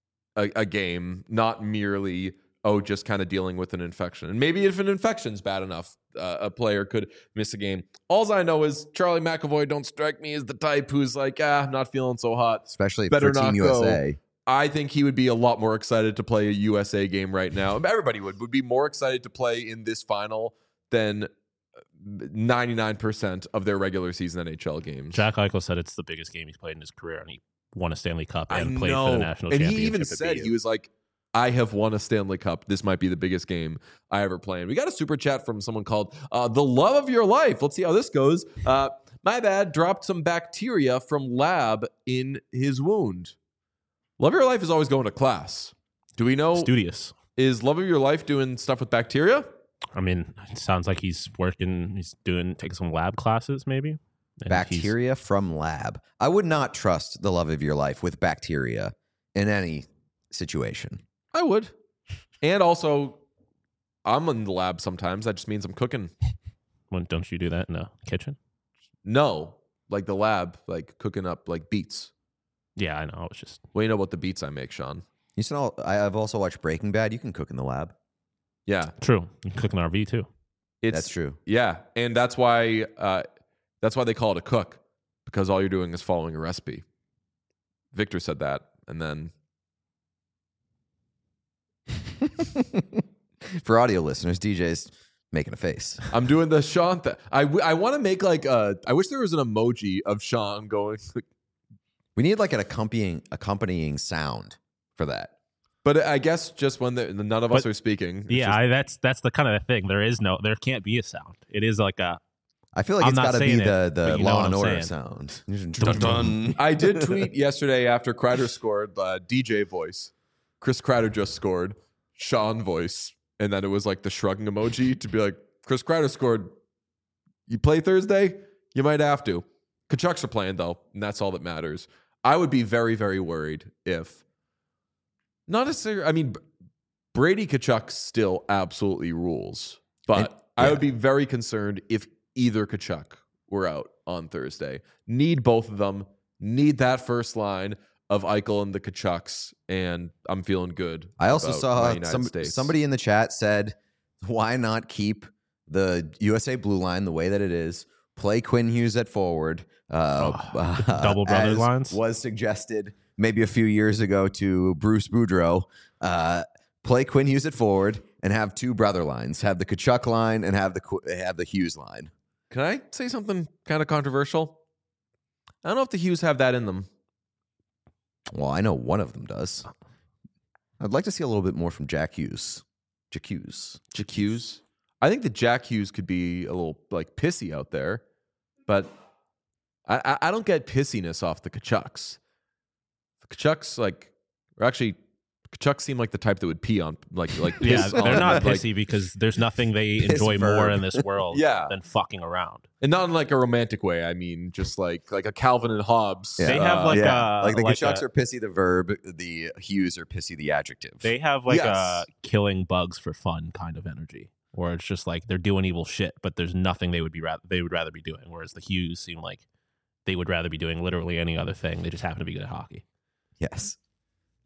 a, a game, not merely, oh, just kind of dealing with an infection. And maybe if an infection's bad enough, uh, a player could miss a game. All I know is Charlie McAvoy don't strike me as the type who's like, ah, I'm not feeling so hot. Especially Better for Team not U S A. go. I think he would be a lot more excited to play a U S A game right now. Everybody would, would be more excited to play in this final than ninety-nine percent of their regular season N H L games. Jack Eichel said it's the biggest game he's played in his career, and he won a Stanley Cup and I played know. for the national and championship. he even at said, B U. he was like, I have won a Stanley Cup. This might be the biggest game I ever play. And we got a super chat from someone called uh, The Love of Your Life. Let's see how this goes. Uh, my bad, dropped some bacteria from lab in his wound. Love of Your Life is always going to class. Do we know, Studious. is Love of Your Life doing stuff with bacteria? I mean, it sounds like he's working, he's doing, taking some lab classes maybe. And he's- Bacteria from lab. I would not trust the love of your life with bacteria in any situation. I would. And also, I'm in the lab sometimes. That just means I'm cooking. When, don't you do that in the kitchen? No, like the lab, like cooking up like beets. Yeah, I know. It's just What do you know about the beets I make, Sean? You saw, I- I've also watched Breaking Bad. You can cook in the lab. Yeah, true. You can cook an R V too. it's That's true. Yeah, and that's why uh, that's why they call it a cook, because all you're doing is following a recipe. Victor said that, and then For audio listeners, D J's making a face. I'm doing the Sean. Th- I w- I want to make like a. I wish there was an emoji of Sean going. We need like an accompanying accompanying sound for that. But I guess just when the, none of us But- are speaking. it's Yeah, just- I, that's that's the kind of thing. There is no, there can't be a sound. It is like a I feel like I'm it's not got to be saying the, it, the but you know Law what and I'm Order saying. sound. Dun, dun. I did tweet yesterday after Kreider scored, uh, D J voice. Chris Kreider just scored, Sean voice. And then it was like the shrugging emoji to be like, Chris Kreider scored. You play Thursday? You might have to. Kachucks are playing, though, and that's all that matters. I would be very, very worried if, not necessarily, I mean, Brady Kachuk still absolutely rules. But And- I yeah. would be very concerned if either Kachuk were out on Thursday. Need both of them. Need that first line of Eichel and the Kachucks, and I'm feeling good. I also about my saw United some, States. somebody in the chat said, why not keep the U S A blue line the way that it is? Play Quinn Hughes at forward. Uh, Oh, double brother as lines? was suggested maybe a few years ago to Bruce Boudreau. Uh, play Quinn Hughes at forward and have two brother lines. Have the Kachuk line and have the Qu- have the Hughes line. Can I say something kind of controversial? I don't know if the Hughes have that in them. Well, I know one of them does. I'd like to see a little bit more from Jack Hughes. Jack Hughes. Jack Hughes. I think that Jack Hughes could be a little like pissy out there, but I, I, I don't get pissiness off the Kachucks. The Kachucks like, or actually, Kachucks seem like the type that would pee on like like yeah. piss They're on, not like, pissy because there's nothing they Piss enjoy more verb. in this world Yeah. than fucking around. and not in like a romantic way. I mean, just like like a Calvin and Hobbes. They have, uh, like, yeah. uh, like the like Kachucks a- are pissy the verb, the Hughes are pissy the adjective. They have like Yes. a killing bugs for fun kind of energy, where it's just like they're doing evil shit, but there's nothing they would be rather they would rather be doing. Whereas the Hughes seem like they would rather be doing literally any other thing. They just happen to be good at hockey. Yes.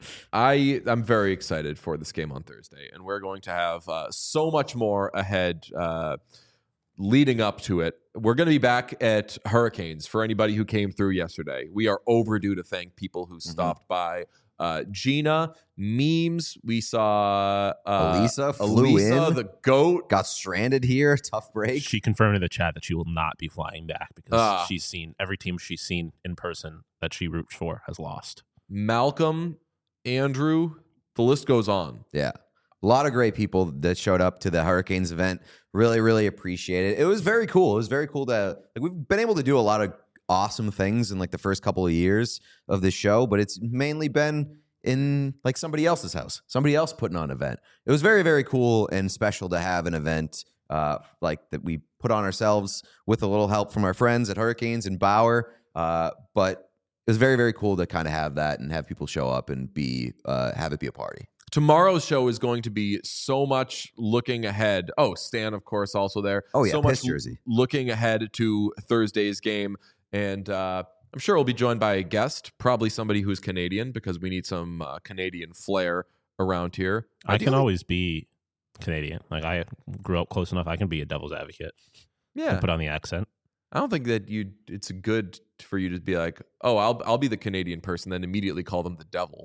I I'm very excited for this game on Thursday, and we're going to have uh, so much more ahead uh, leading up to it. We're going to be back at Hurricanes for anybody who came through yesterday. We are overdue to thank people who stopped mm-hmm. by. Uh, Gina, memes. We saw uh, Elisa flew Elisa, in, the goat, got stranded here. Tough break. She confirmed in the chat that she will not be flying back because Ah. she's seen every team she's seen in person that she roots for has lost. Malcolm, Andrew. The list goes on. Yeah. A lot of great people that showed up to the Hurricanes event. Really, really appreciate it. It was very cool. It was very cool to like we've been able to do a lot of awesome things in like the first couple of years of this show, but it's mainly been in like somebody else's house, somebody else putting on an event. It was very, very cool and special to have an event uh, like that we put on ourselves with a little help from our friends at Hurricanes and Bauer. Uh, but it was very, very cool to kind of have that and have people show up and be uh, have it be a party. Tomorrow's show is going to be so much looking ahead. Oh, Stan, of course, also there. Oh, yeah, so piss much jersey. looking ahead to Thursday's game. And uh, I'm sure we'll be joined by a guest, probably somebody who's Canadian, because we need some uh, Canadian flair around here. I Ideally- can always be Canadian. Like, I grew up close enough. I can be a devil's advocate. Yeah. And put on the accent. I don't think that you. It's good for you to be like, oh, I'll I'll be the Canadian person, then immediately call them the devil.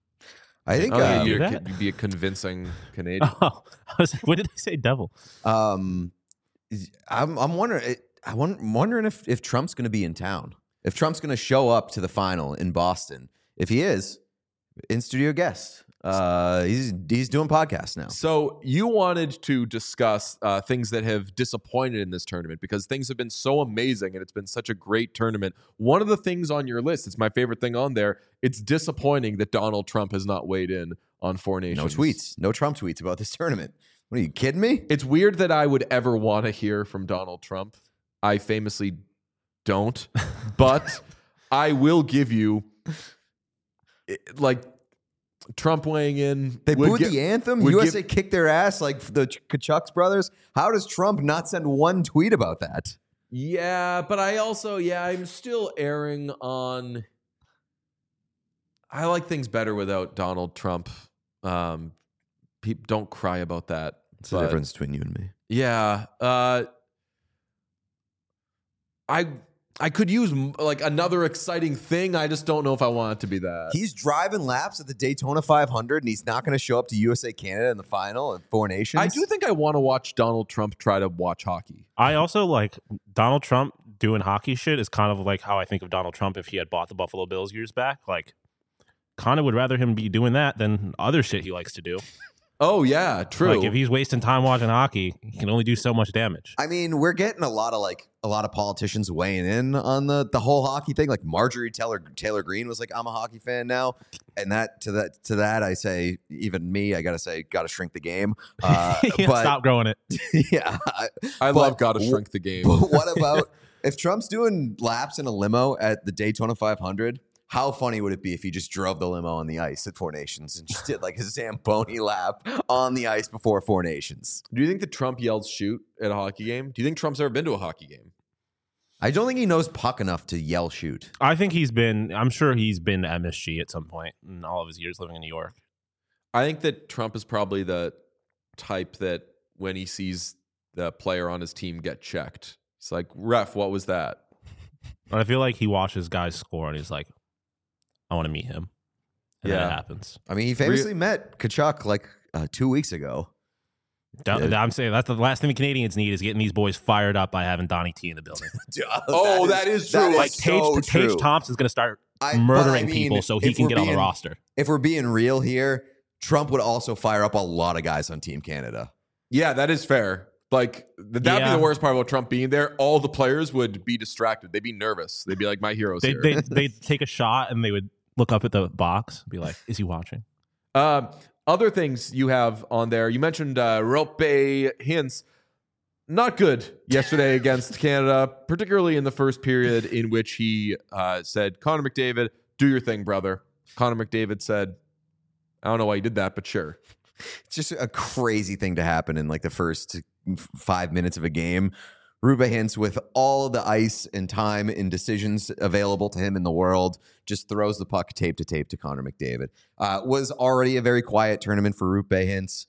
I think I don't think um, you're, do that? you'd be a convincing Canadian. Oh, I was like, what did they say, devil? um, I'm I'm wondering. I wonder, I'm wondering if if Trump's going to be in town. If Trump's going to show up to the final in Boston. If he is, in studio guest. Uh, he's he's doing podcasts now. So you wanted to discuss uh, things that have disappointed in this tournament because things have been so amazing and it's been such a great tournament. One of the things on your list, it's my favorite thing on there. It's disappointing that Donald Trump has not weighed in on Four Nations. No tweets, no Trump tweets about this tournament. What are you kidding me? It's weird that I would ever want to hear from Donald Trump. I famously don't, but I will give you it- like. Trump weighing in. They would booed gi- the anthem. would U S A give- kicked their ass like the Ch- Kachucks brothers. How does Trump not send one tweet about that? Yeah, but I also, yeah, I'm still erring on. I like things better without Donald Trump. Um, people don't cry about that. It's the but- difference between you and me. Yeah, uh, I I could use m- like another exciting thing. I just don't know if I want it to be that. He's driving laps at the Daytona five hundred, and he's not going to show up to U S A Canada in the final at Four Nations. I do think I want to watch Donald Trump try to watch hockey. I also like Donald Trump doing hockey shit is kind of like how I think of Donald Trump if he had bought the Buffalo Bills years back. Like, kind of would rather him be doing that than other shit he likes to do. Oh yeah, true. Like, if he's wasting time watching hockey, he can only do so much damage. I mean, we're getting a lot of like a lot of politicians weighing in on the the whole hockey thing. Like Marjorie Taylor Taylor Greene was like, "I'm a hockey fan now," and that to that to that I say, even me, I gotta say, gotta shrink the game. Uh, Yeah, but stop growing it. yeah, I, I but love Gotta w- Shrink the Game. But what about if Trump's doing laps in a limo at the Daytona five hundred? How funny would it be if he just drove the limo on the ice at Four Nations and just did like a Zamboni lap on the ice before Four Nations? Do you think that Trump yells shoot at a hockey game? Do you think Trump's ever been to a hockey game? I don't think he knows puck enough to yell shoot. I think he's been, I'm sure he's been to M S G at some point in all of his years living in New York. I think that Trump is probably the type that when he sees the player on his team get checked, it's like, ref, what was that? But I feel like he watches guys score and he's like, I want to meet him. And then Yeah. it happens. I mean, he famously met Kachuk like uh, two weeks ago. That- Yeah. I'm saying that's the last thing the Canadians need is getting these boys fired up by having Donnie T in the building. Oh, that is true. that Like Tage, so Tage true. Thompson's going to start I- but murdering I mean, people so he if can we're get on the being- roster. If we're being real here, Trump would also fire up a lot of guys on Team Canada. Yeah, that is fair. Like, th- that'd Yeah. be the worst part about Trump being there. All the players would be distracted. They'd be nervous. They'd be like, my hero's They here. they they'd take a shot and they would look up at the box, be like, "Is he watching?" Um, other things you have on there. You mentioned uh, Rope Hintz. Not good yesterday against Canada, particularly in the first period in which he uh, said, Connor McDavid, do your thing, brother. Connor McDavid said, I don't know why you did that, but sure. It's just a crazy thing to happen in like the first f- five minutes of a game. Rupe Hintz, with all the ice and time and decisions available to him in the world, just throws the puck tape to tape to Connor McDavid. Uh, was already a very quiet tournament for Rupe Hintz.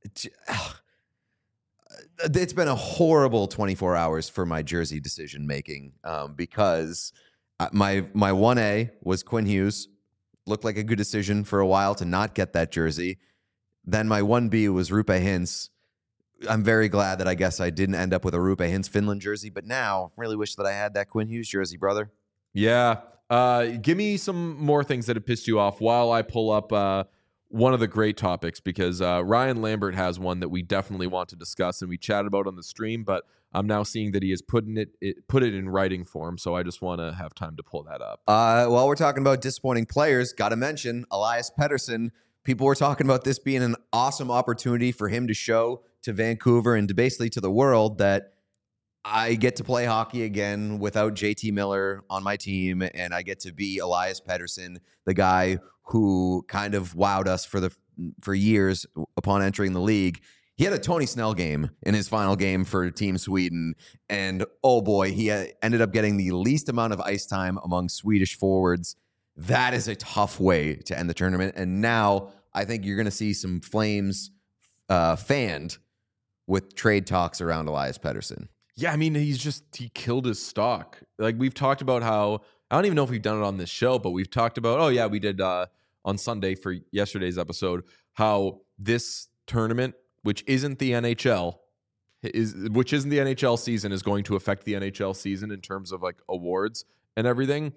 It's been a horrible twenty-four hours for my jersey decision making um, because my my one A was Quinn Hughes. Looked like a good decision for a while to not get that jersey. Then my one B was Rupe Hintz. I'm very glad that I guess I didn't end up with a Rupe Hintz Finland jersey, but now really wish that I had that Quinn Hughes jersey, brother. Yeah. Uh, give me some more things that have pissed you off while I pull up uh, one of the great topics, because uh, Ryan Lambert has one that we definitely want to discuss and we chatted about on the stream, but I'm now seeing that he has put in it, it put it in writing form, so I just want to have time to pull that up. Uh, while we're talking about disappointing players, got to mention Elias Pettersson. People were talking about this being an awesome opportunity for him to show to Vancouver and to basically to the world that I get to play hockey again without J T Miller on my team, and I get to be Elias Pettersson, the guy who kind of wowed us for the for years upon entering the league. He had a Tony Snell game in his final game for Team Sweden, and oh boy, he ended up getting the least amount of ice time among Swedish forwards. That is a tough way to end the tournament, and now I think you're going to see some Flames uh, fanned with trade talks around Elias Pettersson. Yeah, I mean, he's just, he killed his stock. Like, we've talked about how, I don't even know if we've done it on this show, but we've talked about, oh yeah, we did uh, on Sunday for yesterday's episode, how this tournament, which isn't the N H L, is which isn't the N H L season, is going to affect the N H L season in terms of like awards and everything.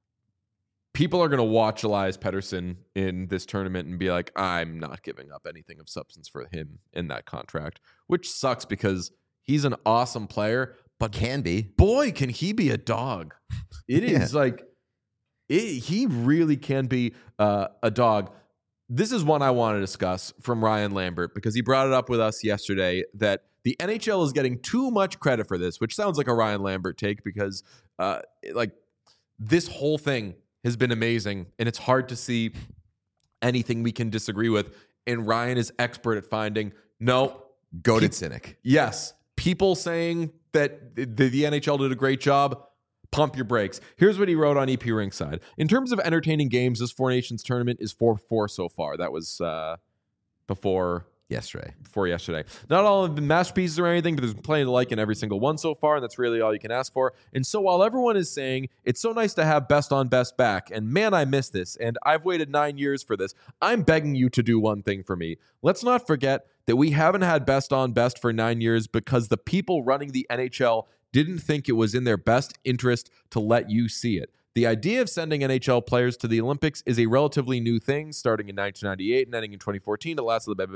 People are going to watch Elias Pettersson in this tournament and be like, I'm not giving up anything of substance for him in that contract, which sucks because he's an awesome player, but can be. Boy, can he be a dog. It is yeah. like, it, he really can be uh, a dog. This is one I want to discuss from Ryan Lambert because he brought it up with us yesterday that the N H L is getting too much credit for this, which sounds like a Ryan Lambert take because uh, like this whole thing has been amazing, and it's hard to see anything we can disagree with. And Ryan is expert at finding, no. Goated cynic. Yes. People saying that the, the N H L did a great job, pump your brakes. Here's what he wrote on E P Rinkside. In terms of entertaining games, this Four Nations tournament is four four so far. That was uh, before... Yesterday. Before yesterday. Not all have been masterpieces or anything, but there's plenty to like in every single one so far, and that's really all you can ask for. And so while everyone is saying, it's so nice to have best on best back, and man, I miss this, and I've waited nine years for this, I'm begging you to do one thing for me. Let's not forget that we haven't had best on best for nine years because the people running the N H L didn't think it was in their best interest to let you see it. The idea of sending N H L players to the Olympics is a relatively new thing, starting in nineteen ninety-eight and ending in twenty fourteen. It lasted the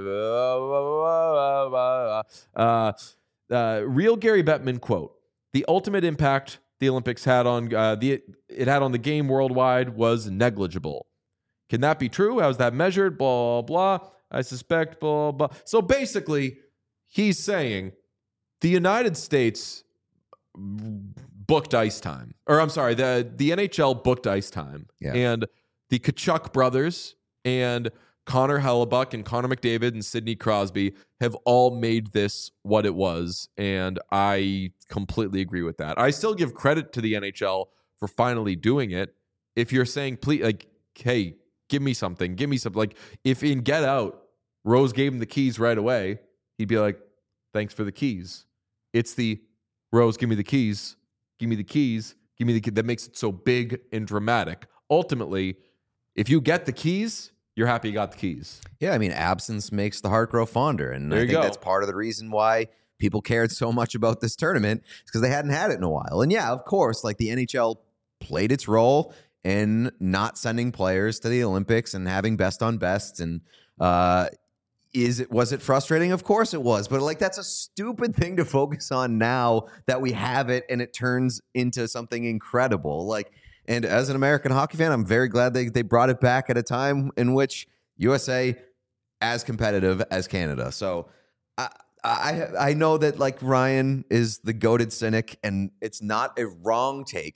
uh, uh, real Gary Bettman quote: "The ultimate impact the Olympics had on uh, the it had on the game worldwide was negligible." Can that be true? How's that measured? Blah blah. I suspect blah blah. So basically, he's saying the United States booked ice time. Or I'm sorry, the, the N H L booked ice time. Yeah. And the Tkachuk brothers and Connor Hellebuck and Connor McDavid and Sidney Crosby have all made this what it was. And I completely agree with that. I still give credit to the N H L for finally doing it. If you're saying, please, like, hey, give me something, give me something. Like, if in Get Out, Rose gave him the keys right away, he'd be like, thanks for the keys. It's the Rose, give me the keys. Give me the keys. Give me the key. That makes it so big and dramatic. Ultimately, if you get the keys, you're happy you got the keys. Yeah, I mean, absence makes the heart grow fonder. And there I you think go. That's part of the reason why people cared so much about this tournament, is because they hadn't had it in a while. And yeah, of course, like the N H L played its role in not sending players to the Olympics and having best on bests. And uh, is it was it frustrating? Of course it was. But like that's a stupid thing to focus on now that we have it and it turns into something incredible. Like, and as an American hockey fan, I'm very glad they, they brought it back at a time in which U S A as competitive as Canada. So I, I I know that like Ryan is the goated cynic, and it's not a wrong take.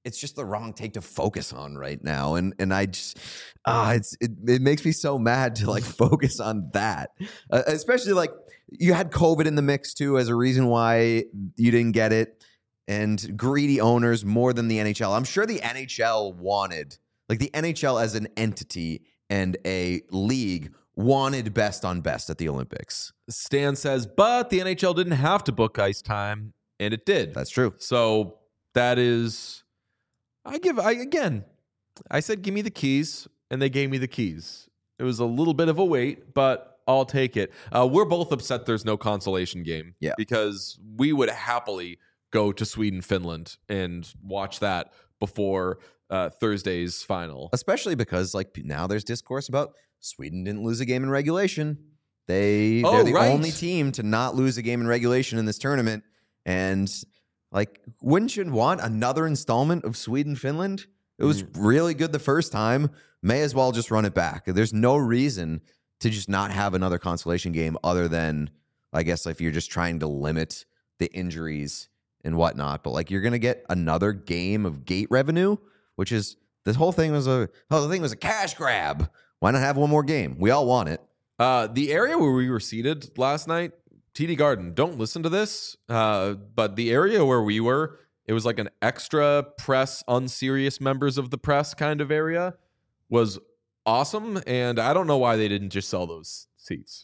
it's just the wrong take to focus on right now. And and I just ah, it's it, it makes me so mad to like focus on that, uh, especially like you had COVID in the mix too as a reason why you didn't get it, and greedy owners more than the N H L. I'm sure the N H L wanted, like the N H L as an entity and a league wanted best on best at the Olympics. Stan says, but the N H L didn't have to book ice time, and it did. That's true. So that is, I give, I again, I said, give me the keys, and they gave me the keys. It was a little bit of a wait, but I'll take it. Uh, we're both upset there's no consolation game. Yeah. Because we would happily go to Sweden, Finland, and watch that before uh, Thursday's final. Especially because like now there's discourse about Sweden didn't lose a game in regulation. They, Oh, they're the right. only team to not lose a game in regulation in this tournament. And like, wouldn't you want another installment of Sweden, Finland? It was Mm. really good the first time. May as well just run it back. There's no reason to just not have another consolation game other than, I guess, if you're just trying to limit the injuries and whatnot. But like, you're going to get another game of gate revenue, which is, this whole thing was a, oh, the thing was a cash grab. Why not have one more game? We all want it. Uh, the area where we were seated last night, T D Garden, don't listen to this, uh, but the area where we were, it was like an extra press, unserious members of the press kind of area, was awesome. And I don't know why they didn't just sell those seats.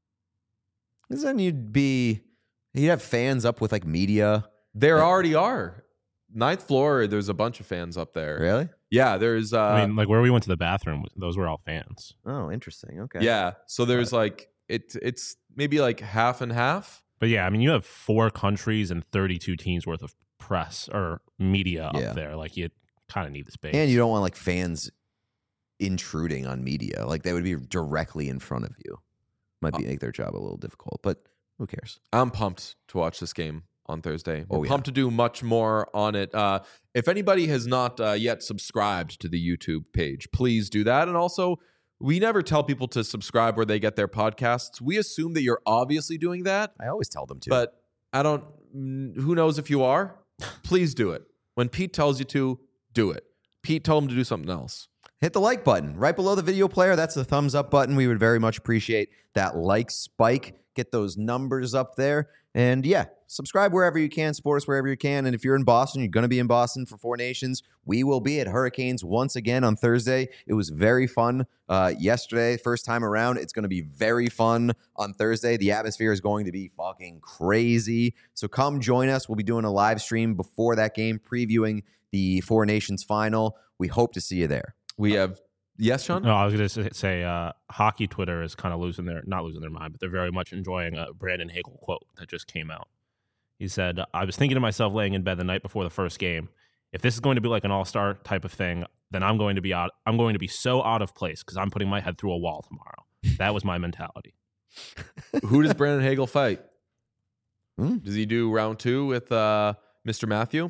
Because then you'd be, you'd have fans up with like media. There already are. Ninth floor, there's a bunch of fans up there. Really? Yeah, there's... Uh, I mean, like where we went to the bathroom, those were all fans. Oh, interesting. Okay. yeah, so there's like, it, it's maybe like half and half. But yeah, I mean, you have four countries and thirty-two teams worth of press or media Yeah. up there. Like you kind of need the space. And you don't want like fans intruding on media. Like they would be directly in front of you. Might be make their job a little difficult, but who cares? I'm pumped to watch this game on Thursday. We're Oh, yeah. pumped to do much more on it. Uh, if anybody has not uh, yet subscribed to the YouTube page, please do that. And also, we never tell people to subscribe where they get their podcasts. We assume that you're obviously doing that, I always tell them to. but I don't, mm, who knows if you are? Please do it. When Pete tells you to, do it. Pete told him to do something else. hit the like button right below the video player. That's the thumbs up button. We would very much appreciate that like spike. Get those numbers up there. And yeah, subscribe wherever you can, support us wherever you can. And if you're in Boston, you're going to be in Boston for Four Nations. We will be at Hurricanes once again on Thursday. It was very fun uh, yesterday, first time around. It's going to be very fun on Thursday. The atmosphere is going to be fucking crazy. So come join us. We'll be doing a live stream before that game, previewing the Four Nations final. We hope to see you there. We have, yes, Sean? No, I was going to say uh, hockey Twitter is kind of losing their, not losing their mind, but they're very much enjoying a Brandon Hagel quote that just came out. He said, I was thinking to myself laying in bed the night before the first game, if this is going to be like an all-star type of thing, then I'm going to be out. I'm going to be so out of place because I'm putting my head through a wall tomorrow. That was my mentality. Who does Brandon Hagel fight? Hmm. Does he do round two with uh, Mister Matthew?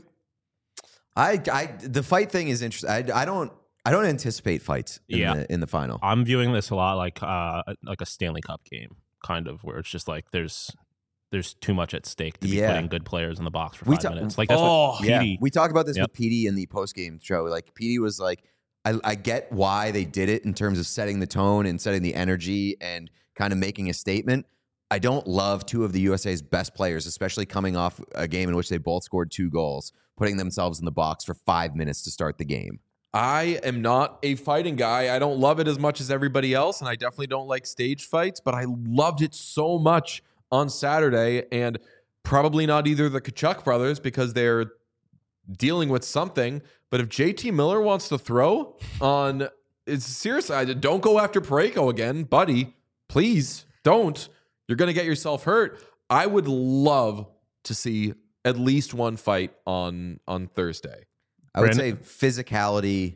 I, I, the fight thing is interesting. I, I don't, I don't anticipate fights in, Yeah. the, in the final. I'm viewing this a lot like uh, like a Stanley Cup game, kind of, where it's just like there's there's too much at stake to be Yeah. putting good players in the box for We five ta- minutes. Like that's Oh, what Yeah, P D. we talked about this Yep. with P D in the post game show. Like P D was like, I, I get why they did it in terms of setting the tone and setting the energy and kind of making a statement. I don't love two of the U S A's best players, especially coming off a game in which they both scored two goals, putting themselves in the box for five minutes to start the game. I am not a fighting guy. I don't love it as much as everybody else, and I definitely don't like stage fights, but I loved it so much on Saturday, and probably not either the Kachuk brothers because they're dealing with something. But if J T Miller wants to throw on, it's serious. I don't go after Parayko again, buddy. Please don't. You're going to get yourself hurt. I would love to see at least one fight on on Thursday. I would Brandon- say physicality,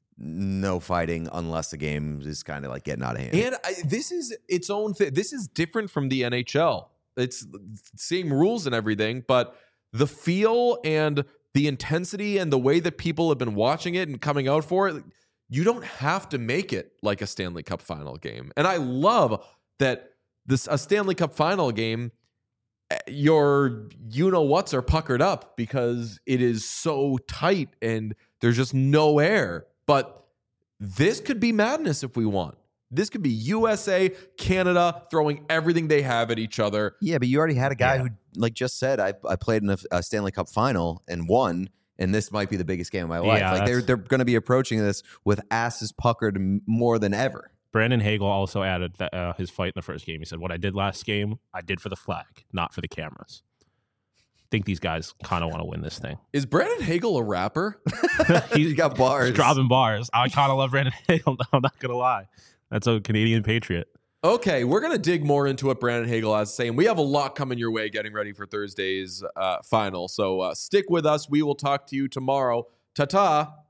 no fighting unless the game is kind of like getting out of hand. And I, this is its own thing. This is different from the N H L. It's same rules and everything, but the feel and the intensity and the way that people have been watching it and coming out for it, you don't have to make it like a Stanley Cup final game. And I love that this a Stanley Cup final game, your you know whats are puckered up because it is so tight and There's just no air. But this could be madness if we want. This could be U S A, Canada throwing everything they have at each other. Yeah, but you already had a guy Yeah. who, like, just said, I, I played in a, a Stanley Cup final and won, and this might be the biggest game of my life. Yeah, like, they're that's- they're going to be approaching this with asses puckered m- more than ever. Brandon Hagel also added that uh, his fight in the first game. He said, "What I did last game, I did for the flag, not for the cameras." I think these guys kind of want to win this thing. Is Brandon Hagel a rapper? He's got bars. He's dropping bars. I kind of love Brandon Hagel. I'm not gonna lie. That's a Canadian patriot. Okay, we're going to dig more into what Brandon Hagel has to say, and we have a lot coming your way getting ready for Thursday's uh, final. So uh, stick with us. We will talk to you tomorrow. Ta-ta.